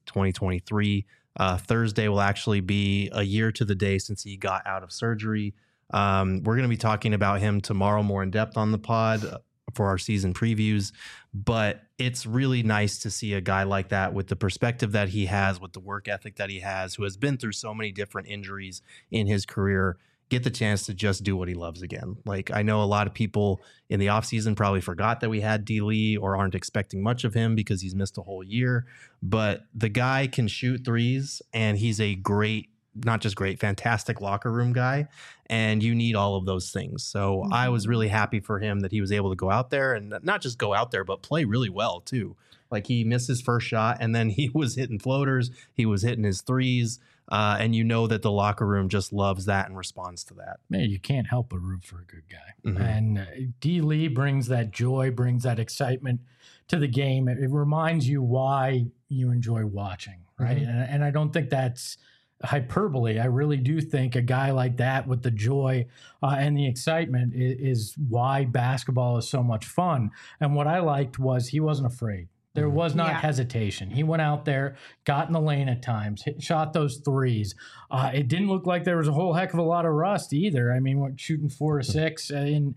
2023. Thursday will actually be a year to the day since he got out of surgery. We're going to be talking about him tomorrow more in depth on the pod for our season previews, but it's really nice to see a guy like that with the perspective that he has, with the work ethic that he has, who has been through so many different injuries in his career, get the chance to just do what he loves again. Like, I know a lot of people in the offseason probably forgot that we had D-Lee or aren't expecting much of him because he's missed a whole year, but the guy can shoot threes, and he's a fantastic locker room guy. And you need all of those things. So I was really happy for him that he was able to go out there and not just go out there, but play really well too. Like, he missed his first shot and then he was hitting floaters. He was hitting his threes. And you know that the locker room just loves that and responds to that. Man, you can't help but root for a good guy. And D-Lee brings that joy, brings that excitement to the game. It reminds you why you enjoy watching, right? And I don't think that's hyperbole. I really do think a guy like that with the joy and the excitement is why basketball is so much fun. And what I liked was he wasn't afraid. There was not hesitation. He went out there, got in the lane at times, shot those threes. It didn't look like there was a whole heck of a lot of rust either. I mean, shooting 4 or 6 in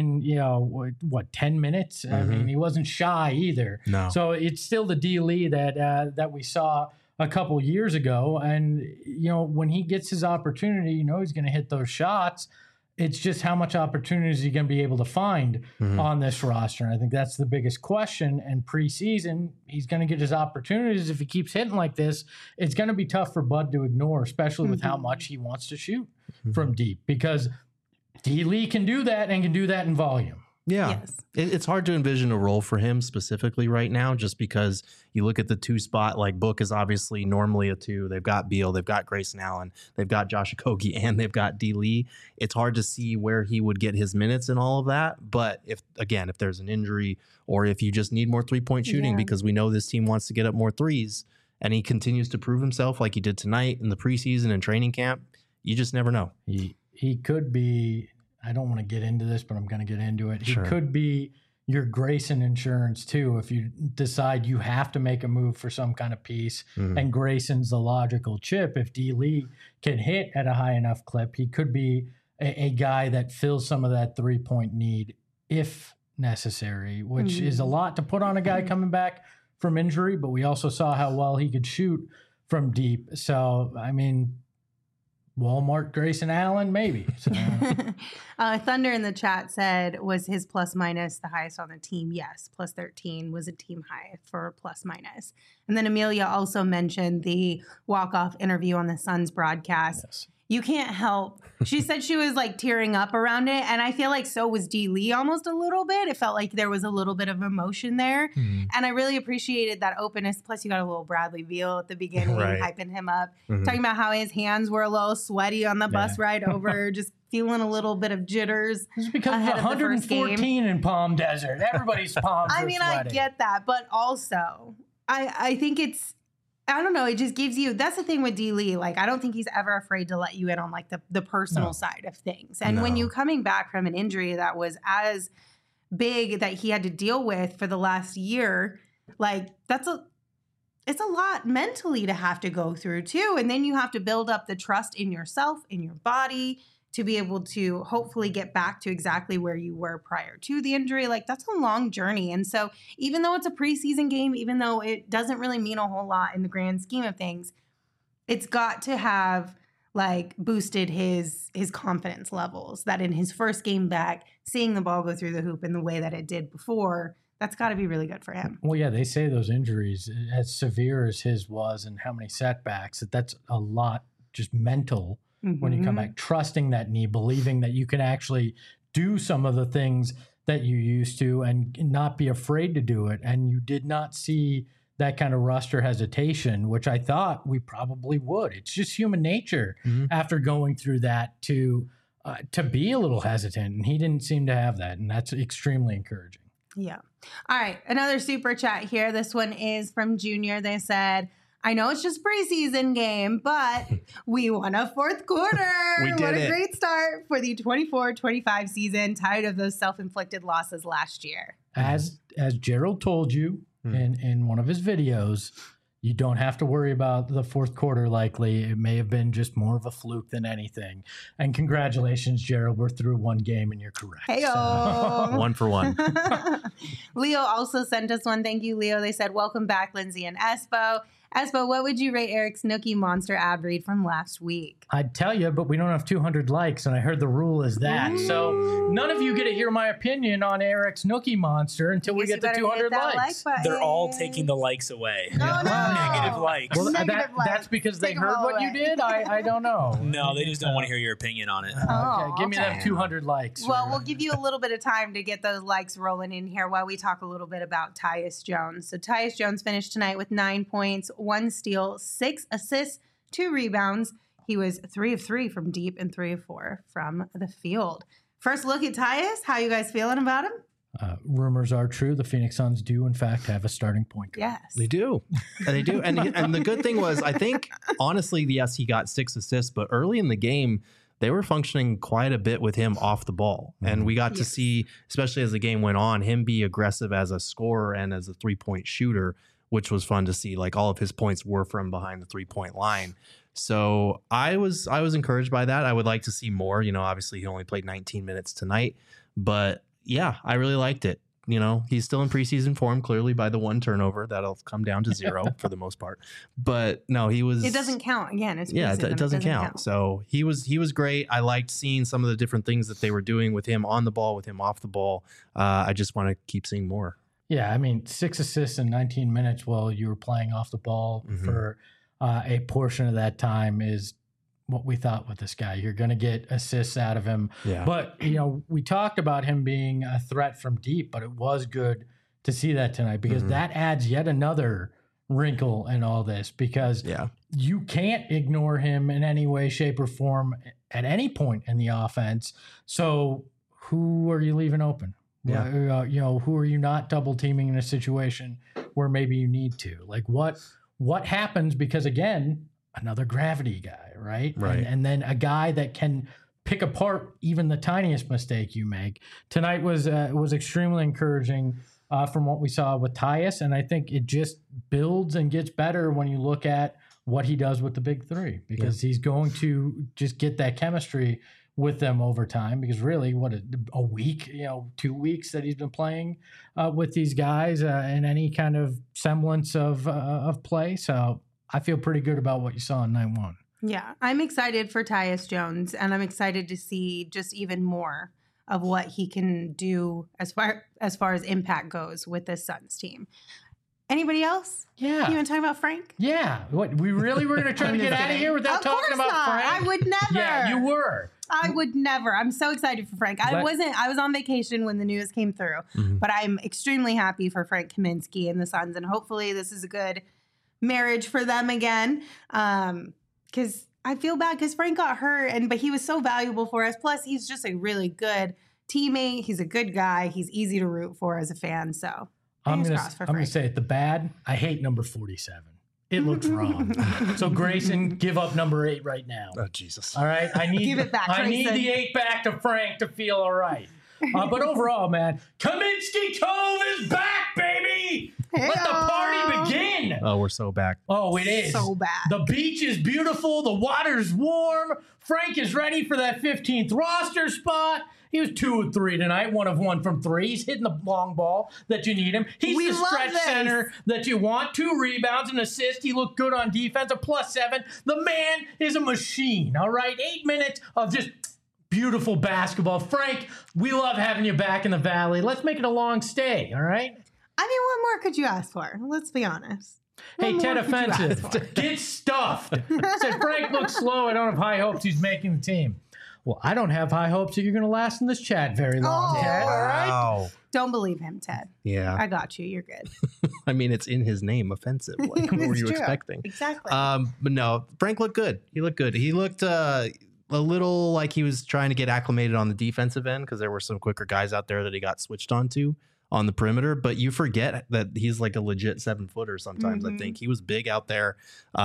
10 minutes? I mean, he wasn't shy either. No. So it's still the D-Lee that we saw a couple years ago. And, when he gets his opportunity, he's going to hit those shots. It's just how much opportunities is he going to be able to find on this roster. And I think that's the biggest question. And preseason, he's going to get his opportunities. If he keeps hitting like this, it's going to be tough for Bud to ignore, especially with how much he wants to shoot from deep, because D-Lee can do that and can do that in volume. Yeah. Yes. It's hard to envision a role for him specifically right now, just because you look at the 2 spot, like Book is obviously normally a 2. They've got Beal, they've got Grayson Allen, they've got Josh Okogie, and they've got D. Lee. It's hard to see where he would get his minutes and all of that. But if there's an injury, or if you just need more 3-point shooting, because we know this team wants to get up more threes, and he continues to prove himself like he did tonight in the preseason and training camp, you just never know. He could be, I don't want to get into this, but I'm going to get into it. He could be your Grayson insurance too. If you decide you have to make a move for some kind of piece, and Grayson's the logical chip, if D. Lee can hit at a high enough clip, he could be a guy that fills some of that 3-point need if necessary, which is a lot to put on a guy coming back from injury, but we also saw how well he could shoot from deep. So, I mean, Walmart Grayson Allen, maybe. So. Thunder in the chat said, was his plus minus the highest on the team? Yes, plus 13 was a team high for plus minus. And then Amelia also mentioned the walk-off interview on the Suns broadcast. Yes. You can't help. She said she was like tearing up around it. And I feel like so was D. Lee almost a little bit. It felt like there was a little bit of emotion there. And I really appreciated that openness. Plus, you got a little Bradley Beal at the beginning, hyping him up, talking about how his hands were a little sweaty on the bus ride over, just feeling a little bit of jitters. It's because of 114 in Palm Desert. Everybody's palms are sweaty. I get that. But also, I think it's, I don't know. It just gives you, that's the thing with D. Lee. Like, I don't think he's ever afraid to let you in on like the personal side of things. And when you coming back from an injury that was as big that he had to deal with for the last year, like it's a lot mentally to have to go through too. And then you have to build up the trust in yourself, in your body, to be able to hopefully get back to exactly where you were prior to the injury. Like, that's a long journey. And so even though it's a preseason game, even though it doesn't really mean a whole lot in the grand scheme of things, it's got to have like boosted his confidence levels, that in his first game back, seeing the ball go through the hoop in the way that it did before, that's got to be really good for him. Well, yeah, they say those injuries, as severe as his was and how many setbacks, that's a lot just mental. When you come back, trusting that knee, believing that you can actually do some of the things that you used to and not be afraid to do it. And you did not see that kind of rust or hesitation, which I thought we probably would. It's just human nature after going through that to be a little hesitant. And he didn't seem to have that. And that's extremely encouraging. Yeah. All right. Another super chat here. This one is from Junior. They said, I know it's just preseason game, but we won a fourth quarter. What a great start for the 24-25 season, tired of those self-inflicted losses last year. As Gerald told you in one of his videos, you don't have to worry about the fourth quarter likely. It may have been just more of a fluke than anything. And congratulations, Gerald. We're through one game and you're correct. Hey-o. So. 1 for 1. Leo also sent us one. Thank you, Leo. They said, welcome back, Lindsay and Espo. Espo, what would you rate Eric's Nookie Monster ad read from last week? I'd tell you, but we don't have 200 likes, and I heard the rule is that. Ooh. So none of you get to hear my opinion on Eric's Nookie Monster until we get to 200 likes. They're all taking the likes away. No. Negative likes. Well, that's because they heard what you did? I don't know. No, they just don't want to hear your opinion on it. Okay, give me them 200 likes. Well, we'll give you a little bit of time to get those likes rolling in here while we talk a little bit about Tyus Jones. So Tyus Jones finished tonight with 9 points, 1 steal, 6 assists, 2 rebounds. He was 3 of 3 from deep and 3 of 4 from the field. First look at Tyus. How you guys feeling about him? Rumors are true. The Phoenix Suns do, in fact, have a starting point guard. Yes. They do. They do. And the good thing was, I think, honestly, yes, he got 6 assists, but early in the game, they were functioning quite a bit with him off the ball. And we got to see, especially as the game went on, him be aggressive as a scorer and as a 3-point shooter, which was fun to see. Like, all of his points were from behind the 3-point line. So I was encouraged by that. I would like to see more. You know, obviously he only played 19 minutes tonight, but yeah, I really liked it. You know, he's still in preseason form, clearly, by the 1 turnover. That'll come down to 0 for the most part. But no, he was. It doesn't count. Again, it's it doesn't count. So he was great. I liked seeing some of the different things that they were doing with him on the ball, with him off the ball. I just want to keep seeing more. Yeah, I mean, 6 assists in 19 minutes while you were playing off the ball for a portion of that time is what we thought with this guy. You're going to get assists out of him. Yeah. But, we talked about him being a threat from deep, but it was good to see that tonight because that adds yet another wrinkle in all this because you can't ignore him in any way, shape, or form at any point in the offense. So who are you leaving open? Yeah. Who are you not double teaming in a situation where maybe you need to? Like what happens? Because again, another gravity guy, right? Right. And then a guy that can pick apart even the tiniest mistake you make. Tonight was extremely encouraging from what we saw with Tyus, and I think it just builds and gets better when you look at what he does with the big three because he's going to just get that chemistry with them over time because really a week, 2 weeks that he's been playing with these guys in any kind of semblance of play. So I feel pretty good about what you saw in 9-1. Yeah, I'm excited for Tyus Jones, and I'm excited to see just even more of what he can do as far as impact goes with this Suns team. Anybody else? Yeah. You want to talk about Frank? Yeah. What, we really were going to try to get out of here without talking about Frank? I would never. Yeah, you were. I would never. I'm so excited for Frank. I was on vacation when the news came through, but I'm extremely happy for Frank Kaminsky and the Suns, and hopefully this is a good marriage for them again. Because I feel bad because Frank got hurt, but he was so valuable for us. Plus, he's just a really good teammate. He's a good guy. He's easy to root for as a fan. So I'm going to say it. The bad, I hate number 47. It looks wrong. So Grayson, give up number 8 right now. Oh, Jesus. All right. I need Give it back, I need Grayson. the 8 back to Frank to feel all right. But overall, man, Kaminsky Cove is back, baby. Let the party begin. Oh, we're so back. Oh, it is. So bad. The beach is beautiful. The water's warm. Frank is ready for that 15th roster spot. He was 2 of 3 tonight, 1 of 1 from 3. He's hitting the long ball that you need him. He's We the love stretch this. center that you want. 2 rebounds, an assist. He looked good on defense, a +7. The man is a machine, all right? 8 minutes of just beautiful basketball. Frank, we love having you back in the Valley. Let's make it a long stay, all right? I mean, what more could you ask for? Let's be honest. Hey, What Ted more could you ask Offensive, for? get stuffed. Said Frank looks slow. I don't have high hopes he's making the team. Well, I don't have high hopes that you're going to last in this chat very long, Oh. Ted. All right? Wow. Don't believe him, Ted. Yeah. I got you. You're good. I mean, it's in his name, offensive. Like, what were It's you true. expecting? Exactly. But no, Frank looked good. He looked good. He looked a little like he was trying to get acclimated on the defensive end because there were some quicker guys out there that he got switched onto on the perimeter. But you forget that he's like a legit 7-footer sometimes. I think he was big out there.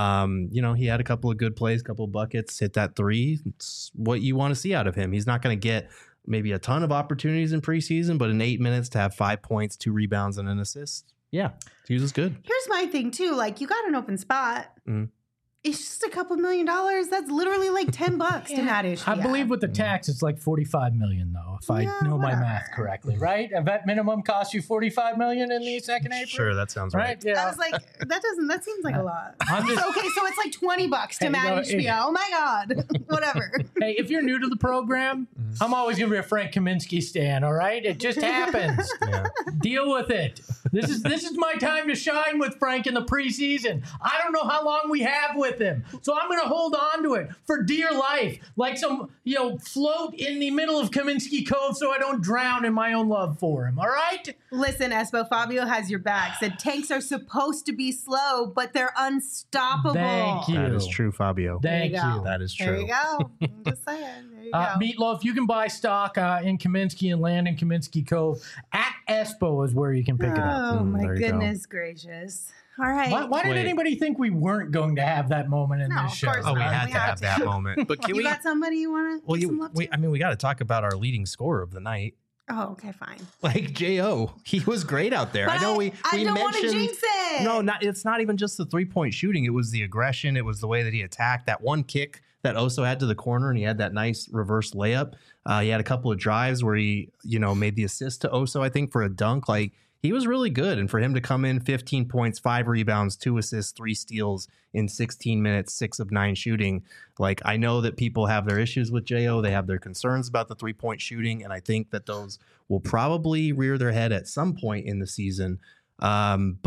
He had a couple of good plays, couple of buckets, hit that 3. It's what you want to see out of him. He's not going to get maybe a ton of opportunities in preseason, but in 8 minutes to have 5 points, 2 rebounds, and an assist. Yeah, he was good. Here's my thing, too. Like, you got an open spot. Mhm. It's just a couple $1 million. That's literally like $10 to Matt Ishbia. I believe with the tax, it's like $45 million, though, if I Yeah, know my whatever. math correctly, right? A vet minimum costs you $45 million in the second April? Sure, that sounds Right? right. Yeah. I was like, that seems like a lot. I'm just- Okay, so it's like $20 to Hey, Matt no, Ishbia. Oh my God. Whatever. Hey, if you're new to the program, I'm always going to be a Frank Kaminsky stan, all right? It just happens. Yeah. Deal with it. This is my time to shine with Frank in the preseason. I don't know how long we have with him. So I'm going to hold on to it for dear life. Like some, float in the middle of Kaminsky Cove so I don't drown in my own love for him, all right? Listen, Espo, Fabio has your back. Said tanks are supposed to be slow, but they're unstoppable. Thank you. That is true, Fabio. Thank There you you. go. That is There true. you go. I'm just saying. There you go. Meatloaf, you can buy stock in Kaminsky and land in Kaminsky Cove. At Espo is where you can pick it up. Oh, my there you go. goodness gracious. All right. Why did Wait. anybody think we weren't going to have that moment in No, this of show? course Oh, we not. had We to had have to. that moment. But can You we? got somebody you want to Well, give some love to? we got to talk about our leading scorer of the night, Oh, okay, fine. like Jo. He was great out there. But I know we don't want to mentioned. jinx it. No, it's not even just the 3-point shooting. It was the aggression. It was the way that he attacked. That one kick that Oso had to the corner, and he had that nice reverse layup. He had a couple of drives where he, made the assist to Oso, I think, for a dunk. Like, he was really good. And for him to come in 15 points, 5 rebounds, 2 assists, 3 steals in 16 minutes, 6 of 9 shooting. Like, I know that people have their issues with Jo. They have their concerns about the 3-point shooting. And I think that those will probably rear their head at some point in the season. But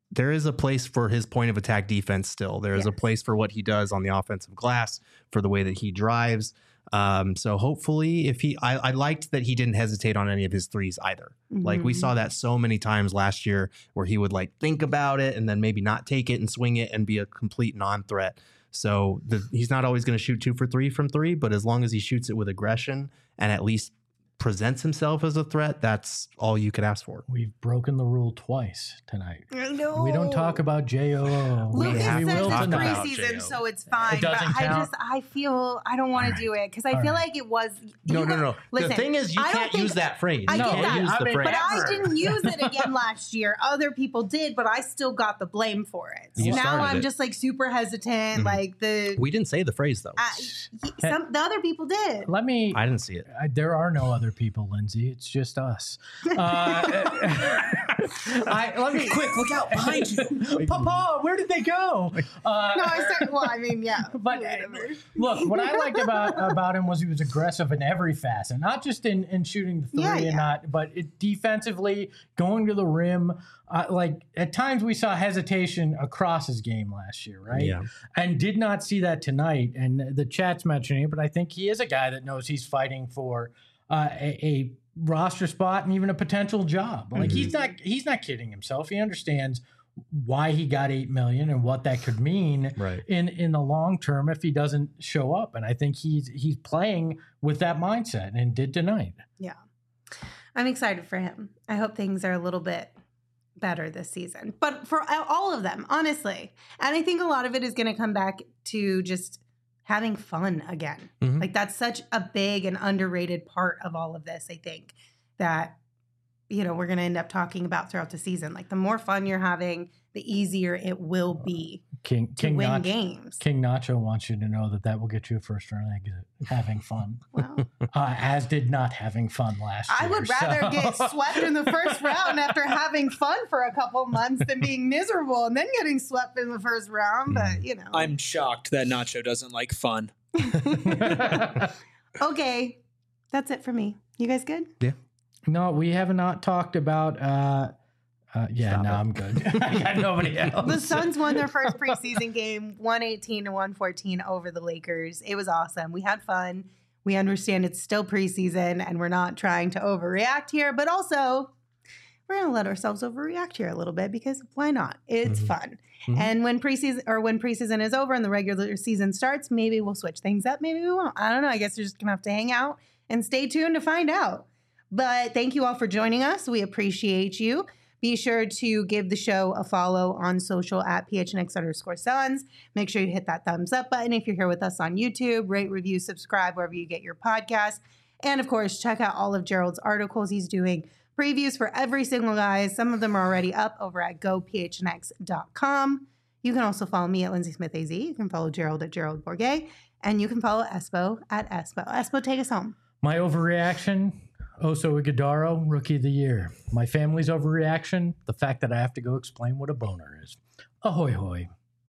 there is a place for his point of attack defense still. There is a place for what he does on the offensive glass, for the way that he drives. So hopefully I liked that he didn't hesitate on any of his threes either. Like we saw that so many times last year where he would like think about it and then maybe not take it and swing it and be a complete non-threat. So he's not always going to shoot 2 for 3 from 3, but as long as he shoots it with aggression and at least presents himself as a threat, that's all you could ask for. We've broken the rule twice tonight. I know. We don't talk about JOO. Lucas says will it's talk about preseason, J.O. so it's fine. It doesn't but count? I feel I don't want to do it because I feel like it was. No. Listen, the thing is, you I don't can't think- use that phrase. I You get can't that. use I the mean, phrase. But I Ever. didn't use it again last year. Other people did, but I still got the blame for it. So You now started I'm it. just like super hesitant. Like We didn't say the phrase though. the other people did. Let me. I didn't see it. There are no other people, Lindsay. It's just us. Let me Quick, look out behind you. Papa, where did they go? No, I started. Well, I mean, yeah. But whatever. look, what I liked about him was he was aggressive in every facet, not just in shooting the three Yeah. and not, but defensively going to the rim. Like at times we saw hesitation across his game last year, right? Yeah. And did not see that tonight. And the chat's mentioning it, but I think he is a guy that knows he's fighting for a roster spot and even a potential job. Like he's not kidding himself. He understands why he got $8 million and what that could mean Right. in the long term if he doesn't show up. And I think he's playing with that mindset and did tonight. Yeah. I'm excited for him. I hope things are a little bit better this season. But for all of them, honestly. And I think a lot of it is going to come back to just having fun again. Mhm. Like that's such a big and underrated part of all of this, I think, that we're going to end up talking about throughout the season. Like the more fun you're having, the easier it will be to win games. King Nacho wants you to know that will get you a first round exit. Having fun, Well, as did not having fun last year. I would rather get swept in the first round after having fun for a couple months than being miserable and then getting swept in the first round. But, I'm shocked that Nacho doesn't like fun. Okay. That's it for me. You guys good? No, we have not talked about. I'm good. I got nobody else. The Suns won their first preseason game, 118-114 over the Lakers. It was awesome. We had fun. We understand it's still preseason and we're not trying to overreact here, but also we're going to let ourselves overreact here a little bit because why not? It's fun. Mhm. And when preseason is over and the regular season starts, maybe we'll switch things up. Maybe we won't. I don't know. I guess you're just going to have to hang out and stay tuned to find out. But thank you all for joining us. We appreciate you. Be sure to give the show a follow on social at PHNX_Suns. Make sure you hit that thumbs up button if you're here with us on YouTube. Rate, review, subscribe wherever you get your podcast. And of course, check out all of Gerald's articles. He's doing previews for every single guy. Some of them are already up over at gophnx.com. You can also follow me at Lindsay Smith AZ. You can follow Gerald at Gerald Bourget. And you can follow Espo at Espo. Espo, take us home. My overreaction, Oso Iguodala, Rookie of the Year. My family's overreaction, the fact that I have to go explain what a boner is. Ahoy hoy.